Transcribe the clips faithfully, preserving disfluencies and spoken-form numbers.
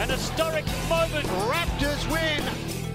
An historic moment. Raptors win.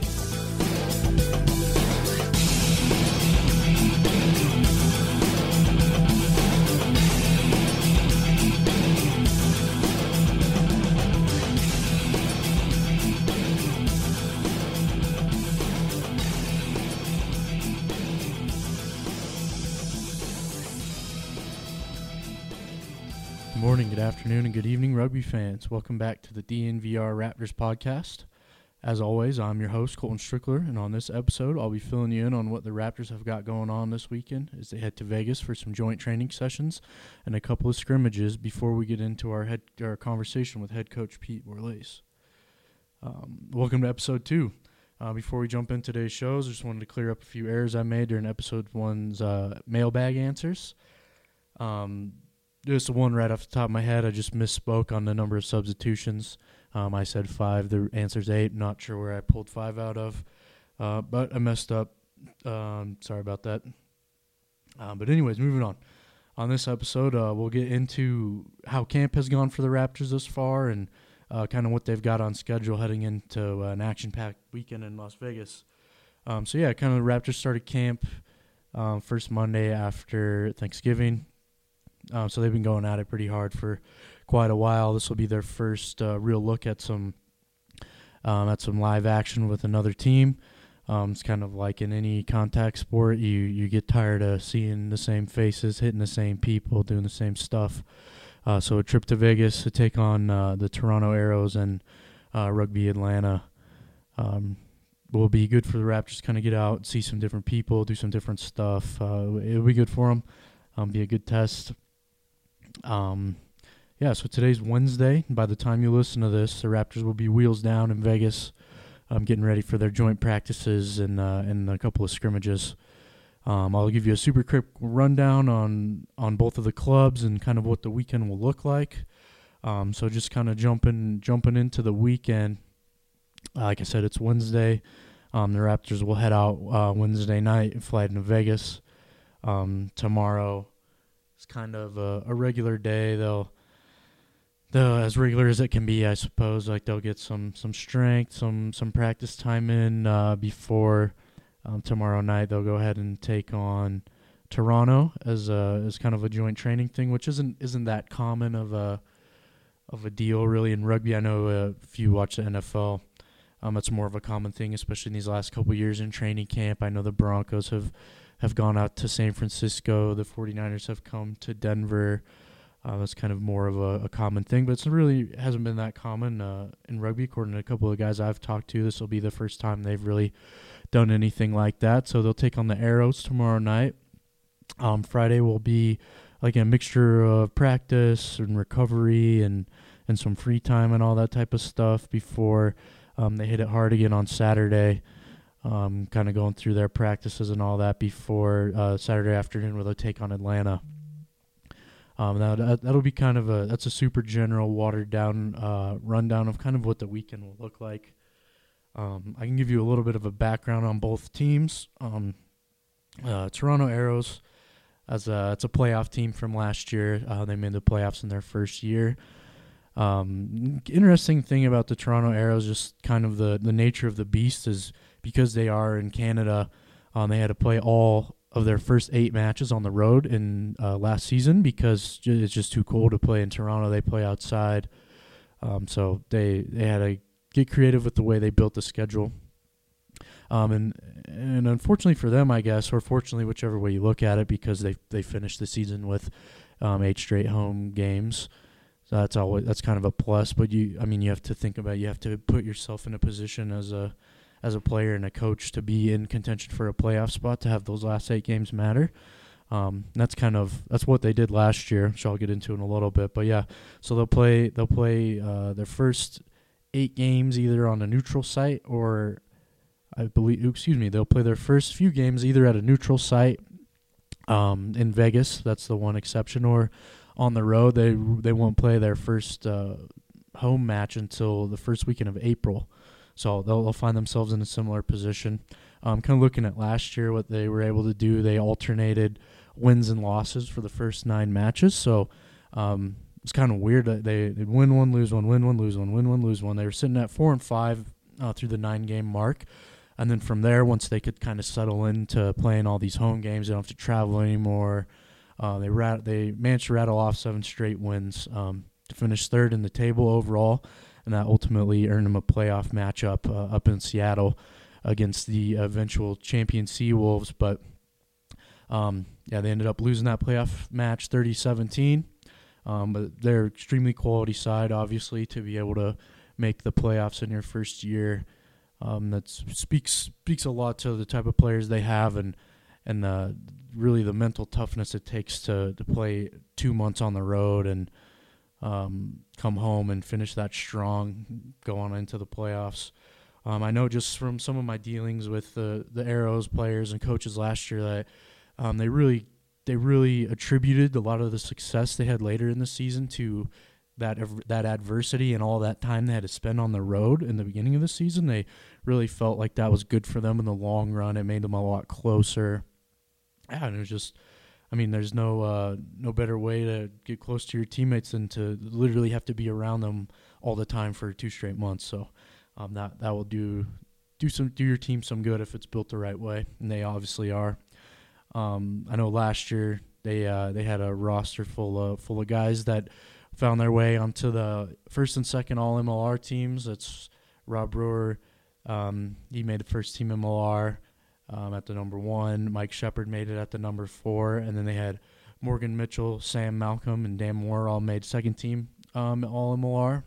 Good morning, good afternoon, and good evening, rugby fans. Welcome back to the D N V R Raptors podcast. As always, I'm your host, Colton Strickler, and on this episode, I'll be filling you in on what the Raptors have got going on this weekend as they head to Vegas for some joint training sessions and a couple of scrimmages before we get into our head our conversation with head coach Pete Borlase. Um, welcome to episode two. Uh, before we jump into today's shows, I just wanted to clear up a few errors I made during episode one's uh, mailbag answers. Um... Just one right off the top of my head, I just misspoke on the number of substitutions. Um, I said five. The answer's eight. Not sure where I pulled five out of, uh, but I messed up. Um, sorry about that. Um, but anyways, moving on. On this episode, uh, we'll get into how camp has gone for the Raptors thus far and uh, kind of what they've got on schedule heading into uh, an action-packed weekend in Las Vegas. Um, so, yeah, kind of the Raptors started camp um, first Monday after Thanksgiving. Um, so they've been going at it pretty hard for quite a while. This will be their first uh, real look at some um, at some live action with another team. Um, it's kind of like in any contact sport, you you get tired of seeing the same faces, hitting the same people, doing the same stuff. Uh, so a trip to Vegas to take on uh, the Toronto Arrows and uh, Rugby Atlanta um, will be good for the Raptors to kind of get out, see some different people, do some different stuff. Uh, it'll be good for them. Um, be a good test. Um, yeah, so today's Wednesday. By the time you listen to this, the Raptors will be wheels down in Vegas, um, getting ready for their joint practices and uh, and a couple of scrimmages. Um, I'll give you a super quick rundown on, on both of the clubs and kind of what the weekend will look like. Um, so just kind of jumping jumping into the weekend. Uh, like I said, it's Wednesday. Um, the Raptors will head out uh, Wednesday night and fly into Vegas. Um, tomorrow. It's kind of a, a regular day. They'll, they'll, as regular as it can be, I suppose. Like they'll get some, some strength, some some practice time in uh, before um, tomorrow night. They'll go ahead and take on Toronto as a, as kind of a joint training thing, which isn't isn't that common of a of a deal really in rugby. I know uh, if you watch the N F L, um, it's more of a common thing, especially in these last couple of years in training camp. I know the Broncos have. have gone out to San Francisco. The 49ers have come to Denver. Uh, that's kind of more of a, a common thing, but it really hasn't been that common uh, in rugby. According to a couple of guys I've talked to, this will be the first time they've really done anything like that. So they'll take on the Arrows tomorrow night. Um, Friday will be like a mixture of practice and recovery and, and some free time and all that type of stuff before um, they hit it hard again on Saturday. Um, kind of going through their practices and all that before uh, Saturday afternoon where they'll take on Atlanta. Um, that, that'll be kind of a, that's a super general watered down uh, rundown of kind of what the weekend will look like. Um, I can give you a little bit of a background on both teams. Um, uh, Toronto Arrows, as a, it's a playoff team from last year. Uh, they made the playoffs in their first year. Um, interesting thing about the Toronto Arrows, just kind of the, the nature of the beast is because they are in Canada, um, they had to play all of their first eight matches on the road in uh, last season because it's just too cold to play in Toronto. They play outside. Um, so they, they had to get creative with the way they built the schedule. Um, and and unfortunately for them, I guess, or fortunately, whichever way you look at it, because they they finished the season with um, eight straight home games. So that's always that's kind of a plus. But you, I mean, you have to think about you have to put yourself in a position as a as a player and a coach to be in contention for a playoff spot to have those last eight games matter. Um, that's kind of that's what they did last year, which I'll get into in a little bit. But yeah, so they'll play they'll play uh, their first eight games either on a neutral site or I believe excuse me they'll play their first few games either at a neutral site um, in Vegas. That's the one exception, or on the road. They they won't play their first uh, home match until the first weekend of April. So they'll, they'll find themselves in a similar position. Um, kind of looking at last year, what they were able to do, they alternated wins and losses for the first nine matches. So um, was kind of weird that they they'd win one, lose one, win one, lose one, win one, lose one. They were sitting at four and five uh, through the nine game mark, and then from there, once they could kind of settle into playing all these home games, they don't have to travel anymore. Uh, they rat they managed to rattle off seven straight wins um, to finish third in the table overall, and that ultimately earned them a playoff matchup uh, up in Seattle against the eventual champion Seawolves. But um, yeah, they ended up losing that playoff match thirty seventeen. Um, but they're extremely quality side, obviously, to be able to make the playoffs in your first year. Um, that speaks speaks a lot to the type of players they have, and and the, really the mental toughness it takes to, to play two months on the road and um, come home and finish that strong, go on into the playoffs. Um, I know just from some of my dealings with the, the Arrows players and coaches last year that um, they really they really attributed a lot of the success they had later in the season to that that adversity and all that time they had to spend on the road in the beginning of the season. They really felt like that was good for them in the long run. It made them a lot closer. Yeah, and it was just, I mean, there's no uh, no better way to get close to your teammates than to literally have to be around them all the time for two straight months. So um, that that will do do some do your team some good if it's built the right way, and they obviously are. Um, I know last year they uh, they had a roster full of full of guys that found their way onto the first and second All M L R teams. That's Rob Brewer. Um, he made the first team M L R. Um, at the number one, Mike Shepard made it at the number four, and then they had Morgan Mitchell, Sam Malcolm, and Dan Moore all made second team um, All M L R.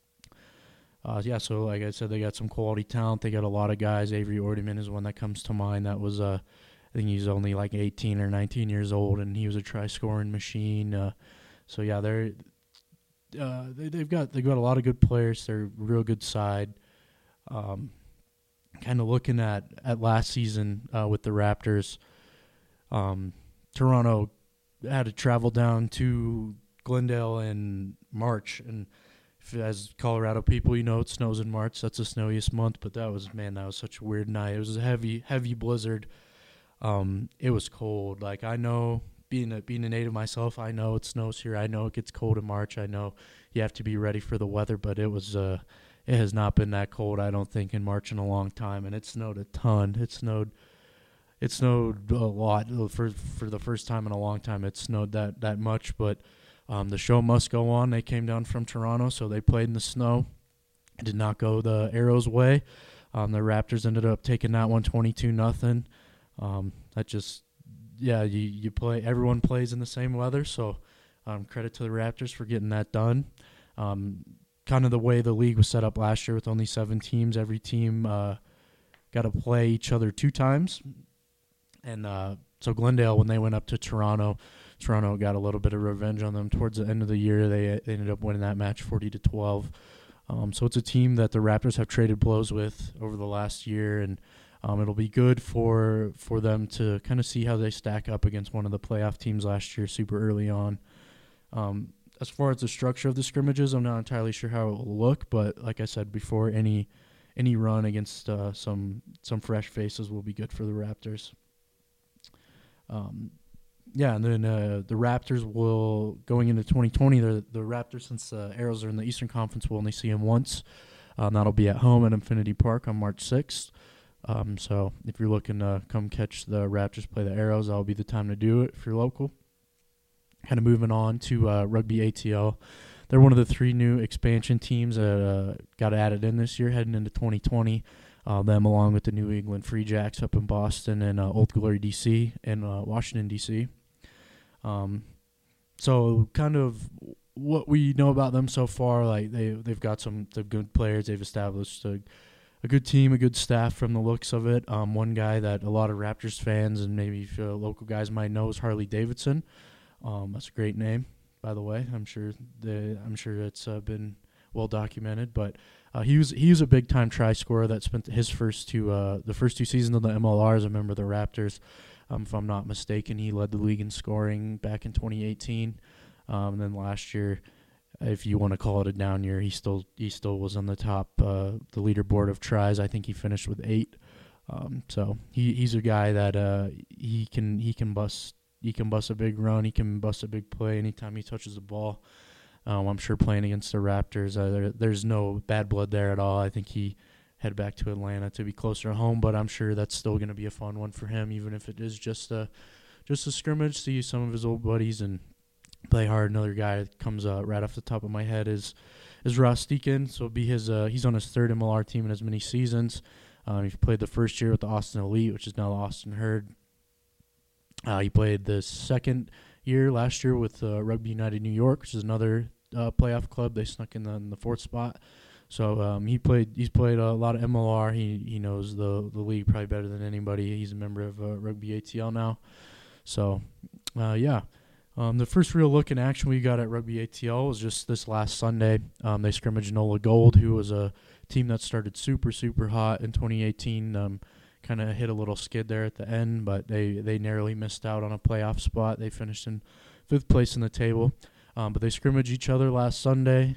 Uh, yeah, so like I said, they got some quality talent. They got a lot of guys. Avery Ordeman is one that comes to mind. That was, uh, I think he's only like eighteen or nineteen years old, and he was a try-scoring machine. Uh, so yeah, they're uh, they, they've got they've got a lot of good players. They're a real good side. Um, Kind of looking at, at last season uh, with the Raptors, um, Toronto had to travel down to Glendale in March. And if, as Colorado people, you know it snows in March. That's the snowiest month. But that was, man, that was such a weird night. It was a heavy, heavy blizzard. Um, it was cold. Like, I know, being a, being a native myself, I know it snows here. I know it gets cold in March. I know you have to be ready for the weather. But it was uh, – it has not been that cold, I don't think, in March in a long time, and it snowed a ton. It snowed, it snowed a lot for for the first time in a long time. It snowed that that much, but um, the show must go on. They came down from Toronto, so they played in the snow. It did not go the Arrows' way. Um, the Raptors ended up taking that one twenty-two nothing. Um, that just, yeah, you you play. Everyone plays in the same weather, so um, credit to the Raptors for getting that done. Um, kind of the way the league was set up last year with only seven teams. Every team uh, got to play each other two times. And uh, so Glendale, when they went up to Toronto, Toronto got a little bit of revenge on them. Towards the end of the year, they, they ended up winning that match forty to twelve. Um, so it's a team that the Raptors have traded blows with over the last year, and um, it'll be good for for them to kind of see how they stack up against one of the playoff teams last year super early on. Um, As far as the structure of the scrimmages, I'm not entirely sure how it will look, but like I said before, any any run against uh, some some fresh faces will be good for the Raptors. Um, yeah, and then uh, the Raptors will, going into twenty twenty, the the Raptors, since the uh, Arrows are in the Eastern Conference, will only see them once. Um, that'll be at home at Infinity Park on March sixth. Um, so if you're looking to come catch the Raptors play the Arrows, that'll be the time to do it if you're local. Kind of moving on to uh, Rugby A T L. They're one of the three new expansion teams that uh, got added in this year heading into twenty twenty. Uh, them along with the New England Free Jacks up in Boston and uh, Old Glory D C and uh, Washington D C. Um, so kind of what we know about them so far, like they they've got some they've good players. They've established a, a good team, a good staff from the looks of it. Um, one guy that a lot of Raptors fans and maybe uh, local guys might know is Harley Davidson. Um, that's a great name, by the way. I'm sure the I'm sure it's uh, been well documented. But uh, he was he was a big time try scorer that spent his first two uh, the first two seasons of the M L R as a member of the Raptors. Um, if I'm not mistaken, he led the league in scoring back in twenty eighteen. Um, and then last year, if you want to call it a down year, he still he still was on the top uh, the leaderboard of tries. I think he finished with eight. Um, so he he's a guy that uh, he can he can bust. He can bust a big run. He can bust a big play anytime he touches the ball. Um, I'm sure playing against the Raptors, uh, there, there's no bad blood there at all. I think he head back to Atlanta to be closer to home, but I'm sure that's still going to be a fun one for him, even if it is just a just a scrimmage. See some of his old buddies and play hard. Another guy that comes uh, right off the top of my head is is Ross Deacon. So it'll be his. Uh, he's on his third M L R team in as many seasons. Um, he played the first year with the Austin Elite, which is now the Austin Herd. Uh, he played the second year last year with uh, Rugby United New York, which is another uh, playoff club. They snuck in the, in the fourth spot. So um, he played. He's played a lot of M L R. He he knows the the league probably better than anybody. He's a member of uh, Rugby A T L now. So uh, yeah, um, the first real look in action we got at Rugby A T L was just this last Sunday. Um, they scrimmaged Nola Gold, who was a team that started super super hot in twenty eighteen. Um, kind of hit a little skid there at the end, but they they narrowly missed out on a playoff spot. They finished in fifth place in the table, um, but they scrimmaged each other last Sunday.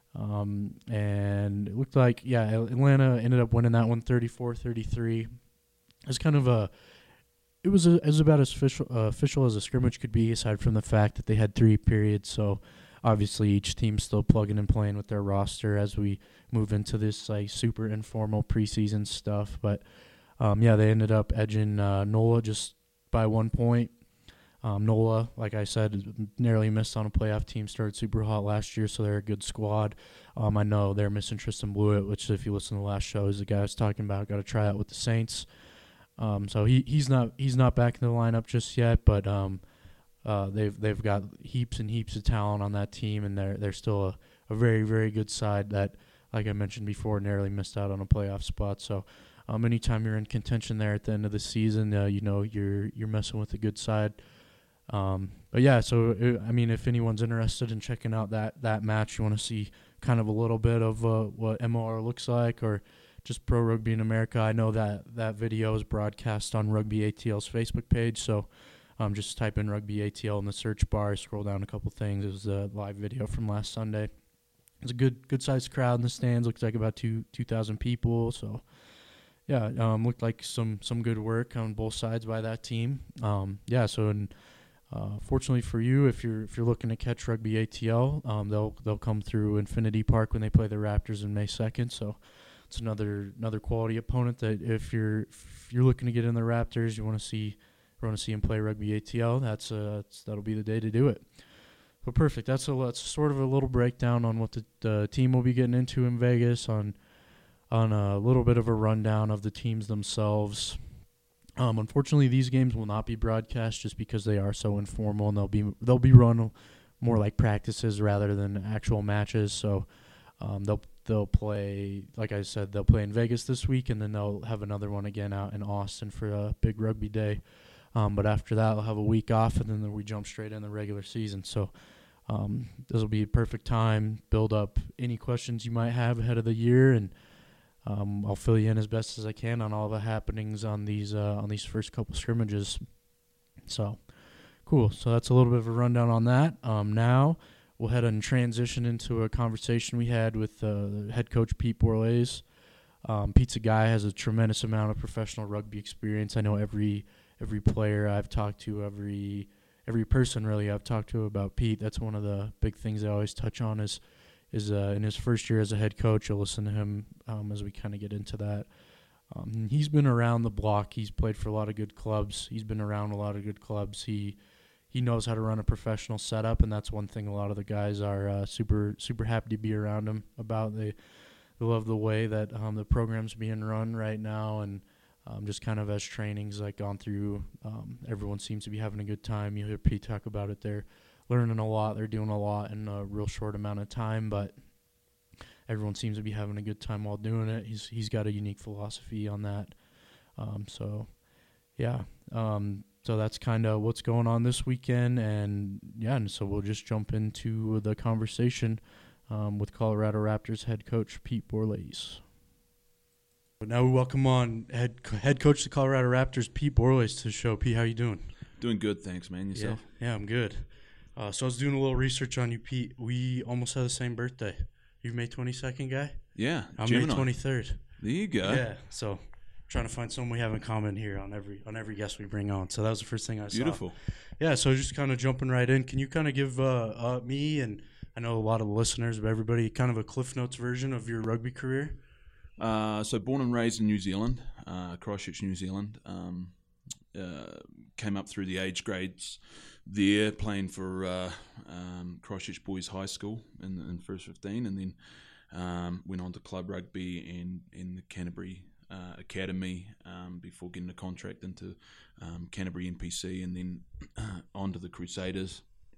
Um, and it looked like, yeah, Atlanta ended up winning that one thirty-four thirty-three. It's kind of a, it was, a, it was about as official, uh, official as a scrimmage could be, aside from the fact that they had three periods. So obviously each team's still plugging and playing with their roster as we move into this like super informal preseason stuff. But um, yeah, they ended up edging uh, Nola just by one point. Um, Nola, like I said, narrowly missed on a playoff team, started super hot last year, so they're a good squad. Um, I know they're missing Tristan Blewett, which if you listen to the last show, is the guy I was talking about, got to try out with the Saints. Um, so he he's not he's not back in the lineup just yet, but um, uh, they've they've got heaps and heaps of talent on that team, and they're they're still a, a very very good side that, like I mentioned before, narrowly missed out on a playoff spot. So um, anytime you're in contention there at the end of the season, uh, you know you're you're messing with a good side. Um, but yeah, so it, I mean, if anyone's interested in checking out that, that match, you want to see kind of a little bit of uh, what M L R looks like, or just Pro Rugby in America. I know that that video is broadcast on Rugby A T L's Facebook page, so um, just type in Rugby A T L in the search bar, scroll down a couple things. It was a live video from last Sunday. It's a good good sized crowd in the stands. Looks like about two two thousand people. So yeah, um, looked like some some good work on both sides by that team. Um, yeah, so in Uh, fortunately for you, if you're if you're looking to catch Rugby A T L, um, they'll they'll come through Infinity Park when they play the Raptors on May second. So it's another another quality opponent that if you're if you're looking to get in the Raptors, you want to see you want to see them play Rugby A T L. That's uh that's, that'll be the day to do it. But perfect. That's a that's sort of a little breakdown on what the, the team will be getting into in Vegas, on on a little bit of a rundown of the teams themselves. Um, unfortunately, these games will not be broadcast just because they are so informal, and they'll be they'll be run more like practices rather than actual matches. So um, they'll they'll play, like I said, they'll play in Vegas this week, and then they'll have another one again out in Austin for a big rugby day. Um, but after that, they'll have a week off, and then we jump straight in the regular season. So um, this will be a perfect time, build up any questions you might have ahead of the year, and Um, I'll fill you in as best as I can on all the happenings on these uh, on these first couple scrimmages. So, cool. So that's a little bit of a rundown on that. Um, now we'll head and transition into a conversation we had with uh, head coach Pete Borlase. Um, Pete's a guy has a tremendous amount of professional rugby experience. I know every every player I've talked to, every every person really I've talked to about Pete. That's one of the big things I always touch on is. is uh, in his first year as a head coach. You'll listen to him um, as we kind of get into that. Um, he's been around the block. He's played for a lot of good clubs. He's been around a lot of good clubs. He he knows how to run a professional setup, and that's one thing a lot of the guys are uh, super super happy to be around him about. They, they love the way that um, the program's being run right now, and um, just kind of as training's like gone through, um, everyone seems to be having a good time. You hear Pete talk about it there. Learning a lot, they're doing a lot in a real short amount of time, but everyone seems to be having a good time while doing it. He's he's got a unique philosophy on that. Um, so, yeah, um, so that's kind of what's going on this weekend, and yeah, and so we'll just jump into the conversation um, with Colorado Raptors head coach Pete Borlase. But now we welcome on head head coach of the Colorado Raptors, Pete Borlase, to the show. Pete, how you doing? Doing good, thanks, man. Yourself? Yeah, yeah I'm good. Uh, so I was doing a little research on you, Pete. We almost have the same birthday. You're May twenty-second guy? Yeah. I'm Gemini. May twenty-third. There you go. Yeah. So trying to find someone we have in common here on every on every guest we bring on. So that was the first thing I Beautiful. saw. Yeah. So just kind of jumping right in. Can you kind of give uh, uh, me and I know a lot of the listeners, but everybody, kind of a Cliff Notes version of your rugby career. Uh, so born and raised in New Zealand, uh, Christchurch, New Zealand. Um, uh, came up through the age grades there, playing for uh, um, Christchurch Boys High School in, in first fifteen, and then um, went on to club rugby and in the Canterbury uh, Academy um, before getting a contract into um, Canterbury N P C, and then uh, on to the Crusaders.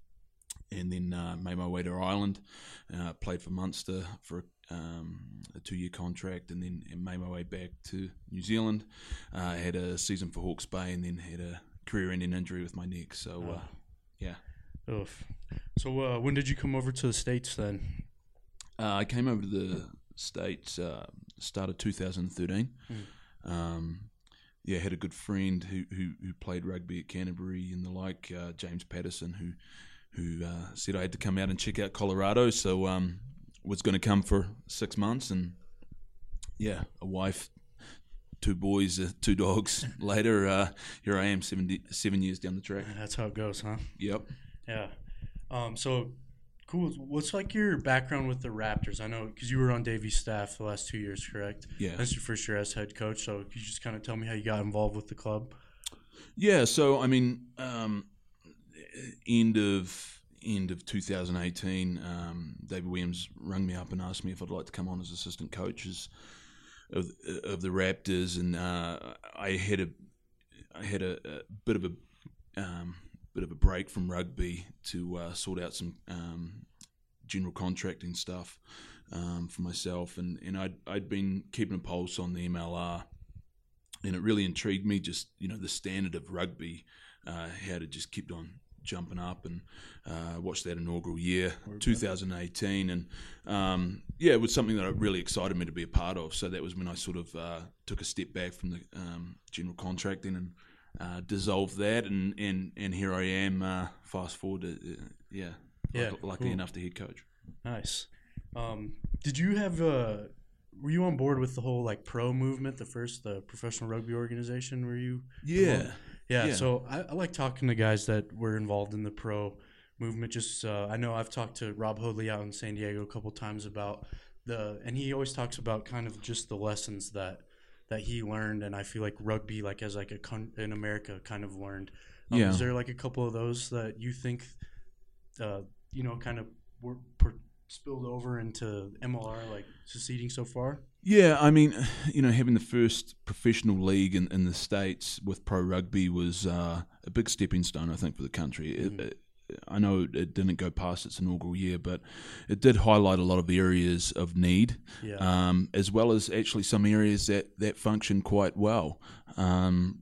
And then uh, made my way to Ireland, uh, played for Munster for um, a two-year contract, and then and made my way back to New Zealand. Uh, had a season for Hawke's Bay, and then had a career-ending injury with my neck. So, uh, yeah. Oof. So uh, when did you come over to the States then? Uh, I came over to the States uh, start of two thousand thirteen. Mm. Um, yeah, had a good friend who, who, who played rugby at Canterbury and the like, uh, James Patterson, who... who uh, said I had to come out and check out Colorado, so um, was going to come for six months, and yeah, a wife, two boys, uh, two dogs later, uh, here I am seven, seven years down the track. That's how it goes, huh? Yep. Yeah. Um, so, cool. What's like your background with the Raptors? I know, because you were on Davy's staff the last two years, correct? Yeah. That's your first year as head coach, so could you just kind of tell me how you got involved with the club? Yeah, so, I mean... Um, End of end of two thousand eighteen, um, David Williams rang me up and asked me if I'd like to come on as assistant coaches of of the Raptors, and uh, I had a I had a, a bit of a um, bit of a break from rugby to uh, sort out some um, general contracting stuff um, for myself, and, and I'd I'd been keeping a pulse on the M L R, and it really intrigued me. Just you know the standard of rugby, uh, how it just kept on jumping up, and uh, watched that inaugural year, two thousand eighteen, and um, yeah, it was something that really excited me to be a part of. So that was when I sort of uh, took a step back from the um, general contracting and uh, dissolved that, and, and, and here I am. Uh, fast forward, to, uh, yeah, yeah, luck, luckily cool. enough to head coach. Nice. Um, did you have uh, were you on board with the whole like pro movement, the first the professional rugby organization? Were you? Yeah. Yeah, Yeah. so I, I like talking to guys that were involved in the pro movement. Just uh, I know I've talked to Rob Hoadley out in San Diego a couple times about the, and he always talks about kind of just the lessons that that he learned, and I feel like rugby, like as like a con- in America, kind of learned. Um, Yeah. Is there like a couple of those that you think, uh, you know, kind of were per- spilled over into M L R, like succeeding so far? Yeah, I mean, you know, having the first professional league in, in the States with pro rugby was uh, a big stepping stone, I think, for the country. Mm. It, it, I know it didn't go past its inaugural year, but it did highlight a lot of areas of need, yeah. um, as well as actually some areas that, that function quite well. Um,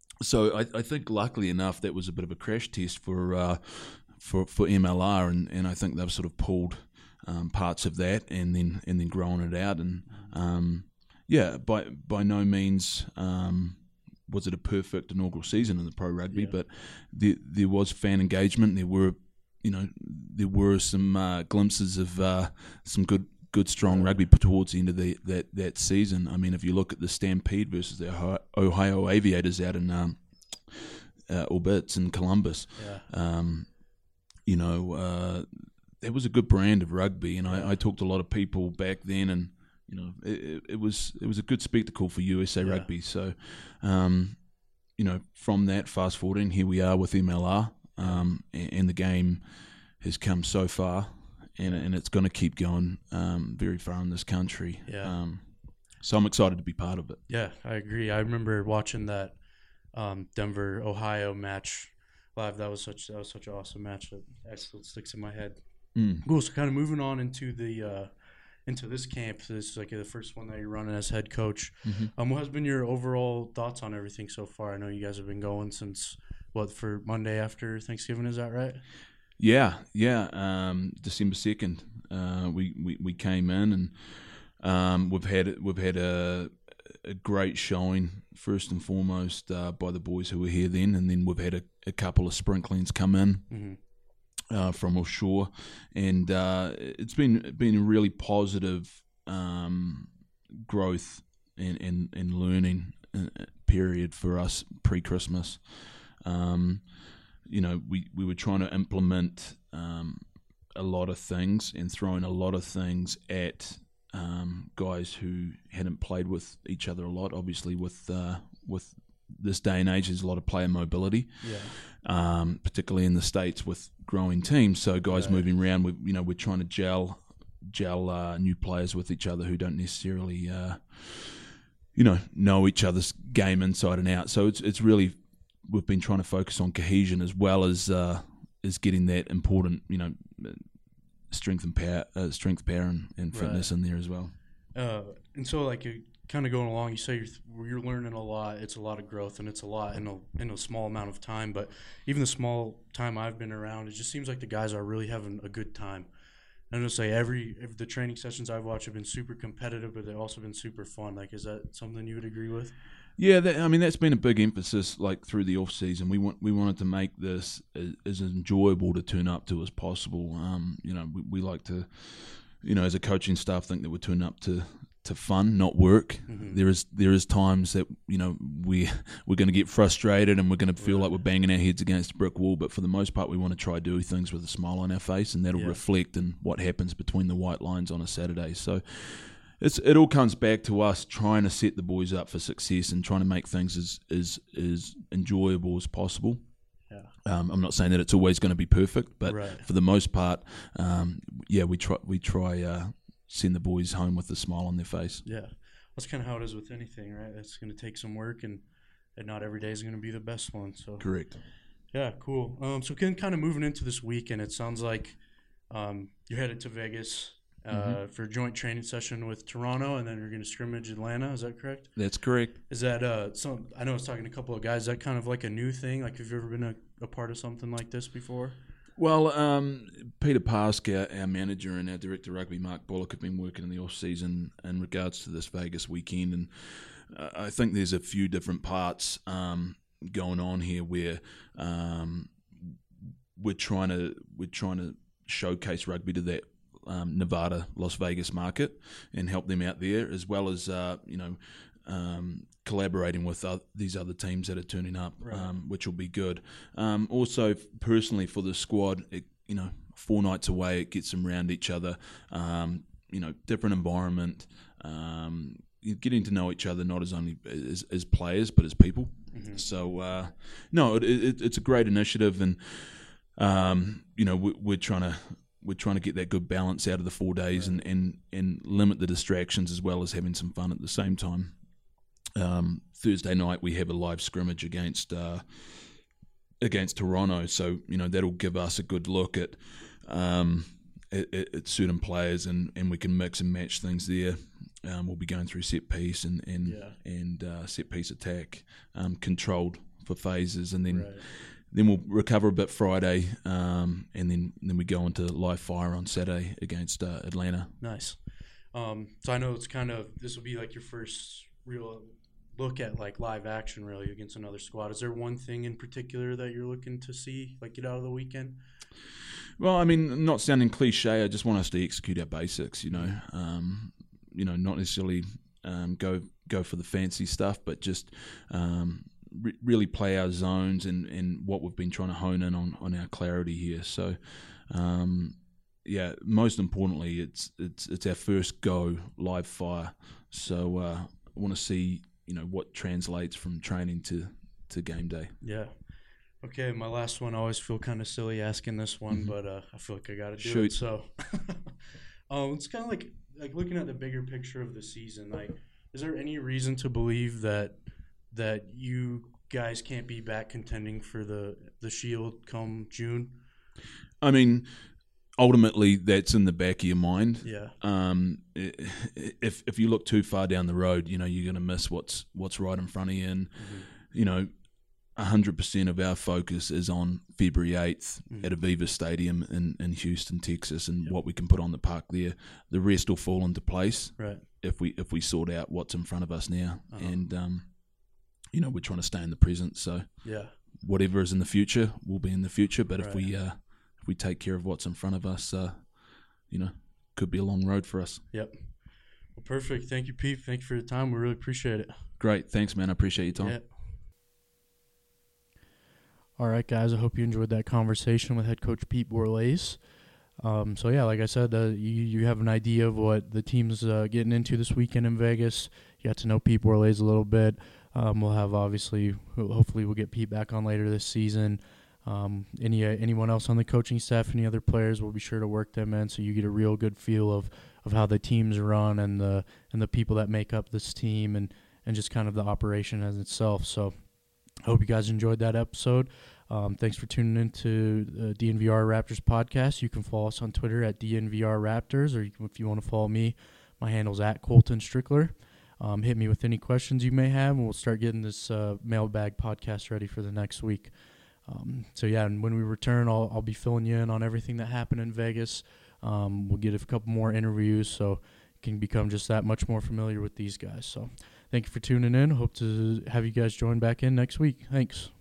so I, I think, luckily enough, that was a bit of a crash test for uh, for, for M L R, and, and I think they've sort of pulled Um, parts of that, and then and then growing it out, and um, yeah, by by no means um, was it a perfect inaugural season in the pro rugby, yeah. but there there was fan engagement. There were, you know, there were some uh, glimpses of uh, some good good strong rugby towards the end of the, that that season. I mean, if you look at the Stampede versus the Ohio, Ohio Aviators out in um, uh, Orbits in Columbus, yeah. um, you know. Uh, It was a good brand of rugby, and I, I talked to a lot of people back then, and you know, it, it was it was a good spectacle for U S A yeah. rugby. So, um, you know, from that, fast forwarding, here we are with M L R, um, and, and the game has come so far, and and it's going to keep going um, very far in this country. Yeah. Um, so I'm excited to be part of it. Yeah, I agree. I remember watching that um, Denver Ohio match live. That was such that was such an awesome match that, that still sticks in my head. Mm. Cool. So kind of moving on into the uh, into this camp. This is like the first one that you're running as head coach. Mm-hmm. Um, what has been your overall thoughts on everything so far? I know you guys have been going since what for Monday after Thanksgiving. Is that right? Yeah, yeah. Um, December second, uh, we, we we came in, and um, we've had we've had a a great showing first and foremost uh, by the boys who were here then, and then we've had a, a couple of sprinklings come in. Mm-hmm. Uh, from offshore, and uh, it's been been a really positive um, growth and, and, and learning period for us pre-Christmas. Um, you know, we, we were trying to implement um, a lot of things and throwing a lot of things at um, guys who hadn't played with each other a lot. Obviously, with uh, with this day and age, there's a lot of player mobility, Yeah. um, particularly in the States with growing teams. So guys Right. moving around, we, you know, we're trying to gel gel uh, new players with each other who don't necessarily, uh, you know, know each other's game inside and out. So it's it's really, we've been trying to focus on cohesion as well as uh, as getting that important, you know, strength and power, uh, strength, power, and, and fitness Right. in there as well. Uh, and so, like, you kind of going along, you say you're you're learning a lot. It's a lot of growth, and it's a lot in a in a small amount of time. But even the small time I've been around, it just seems like the guys are really having a good time. I'm gonna say every, every the training sessions I've watched have been super competitive, but they've also been super fun. Like, is that something you would agree with? Yeah, that, I mean that's been a big emphasis. Like through the off season, we want we wanted to make this as, as enjoyable to turn up to as possible. Um, you know, we, we like to, you know, as a coaching staff, think that we're turning up to, to fun, not work. Mm-hmm. There is there is times that you know we we're going to get frustrated and we're going to feel Right. like we're banging our heads against a brick wall. But for the most part, we want to try do things with a smile on our face, and that'll Yeah. reflect in what happens between the white lines on a Saturday. So. It's, it all comes back to us trying to set the boys up for success and trying to make things as as, as enjoyable as possible. Yeah. Um, I'm not saying that it's always going to be perfect, but Right. for the most part, um, yeah, we try we try uh, send the boys home with a smile on their face. Yeah, that's kind of how it is with anything, right? It's going to take some work, and, and not every day is going to be the best one. So Correct. yeah, cool. Um, so kind kind of moving into this weekend, it sounds like um, you're headed to Vegas uh, Mm-hmm. for a joint training session with Toronto, and then you're going to scrimmage Atlanta. Is that correct? That's correct. Is that uh, some? I know I was talking to a couple of guys. Is that kind of like a new thing? Like, have you ever been a, a part of something like this before? Well, um, Peter Pask, our, our manager, and our director of rugby, Mark Bullock, have been working in the off season in regards to this Vegas weekend, and uh, I think there's a few different parts um, going on here where um, we're trying to we're trying to showcase rugby to that um, Nevada, Las Vegas market and help them out there, as well as uh, you know. Um, collaborating with uh, these other teams that are turning up, Right. um, which will be good. Um, also, personally for the squad, it, you know, four nights away, it gets them around each other. Um, you know, different environment, um, you're getting to know each other not as only as, as players but as people. Mm-hmm. So, uh, no, it, it, it's a great initiative, and um, you know, we, we're trying to. We're trying to get that good balance out of the four days Right. and, and, and limit the distractions as well as having some fun at the same time. Um, Thursday night we have a live scrimmage against uh, against Toronto, so you know that'll give us a good look at um, at, at certain players, and, and we can mix and match things there. Um, we'll be going through set piece and and Yeah. and uh, set piece attack, um, controlled for phases, and then. Right. Then we'll recover a bit Friday, um, and then, then we go into live fire on Saturday against uh, Atlanta. Nice. Um, so I know it's kind of this will be like your first real look at like live action really against another squad. Is there one thing in particular that you're looking to see like get out of the weekend? Well, I mean, not sounding cliche, I just want us to execute our basics. You know, um, you know, not necessarily um, go go for the fancy stuff, but just. Um, re- really play our zones and, and what we've been trying to hone in on, on our clarity here. So, um, yeah, most importantly, it's it's it's our first go live fire. So uh, I want to see you know what translates from training to, to game day. Yeah. Okay, my last one. I always feel kind of silly asking this one, Mhm. but uh, I feel like I got to do Shoot. it. So, um, it's kind of like like looking at the bigger picture of the season. Like, is there any reason to believe that that you guys can't be back contending for the the Shield come June? I mean, ultimately, that's in the back of your mind. Yeah. Um, i- if if you look too far down the road, you know you're going to miss what's what's right in front of you, and Mhm. you know, a hundred percent of our focus is on February eighth Mhm. at Aviva Stadium in, in Houston, Texas, and Yep. what we can put on the park there. The rest will fall into place Right. if we if we sort out what's in front of us now, Uh-huh. and um, you know, we're trying to stay in the present. So Yeah. whatever is in the future will be in the future. But if Right. we uh, if we take care of what's in front of us, uh, you know, could be a long road for us. Yep. Well, perfect. Thank you, Pete. Thank you for your time. We really appreciate it. Great, thanks, man. I appreciate your time. Yeah. All right, guys, I hope you enjoyed that conversation with head coach Pete Borlase. Um, so yeah, like I said, uh, you you have an idea of what the team's uh, getting into this weekend in Vegas. You got to know Pete Borlase a little bit. Um, we'll have obviously, hopefully, we'll get Pete back on later this season. Um, any uh, anyone else on the coaching staff, any other players, we'll be sure to work them in so you get a real good feel of, of how the teams run and the and the people that make up this team and, and just kind of the operation as itself. So I hope you guys enjoyed that episode. Um, thanks for tuning in to the D N V R Raptors podcast. You can follow us on Twitter at D N V R Raptors, or you can, if you want to follow me, my handle's at Colton Strickler. Um, hit me with any questions you may have, and we'll start getting this uh, mailbag podcast ready for the next week. Um, so, yeah, and when we return, I'll, I'll be filling you in on everything that happened in Vegas. Um, we'll get a couple more interviews so you can become just that much more familiar with these guys. So thank you for tuning in. Hope to have you guys join back in next week. Thanks.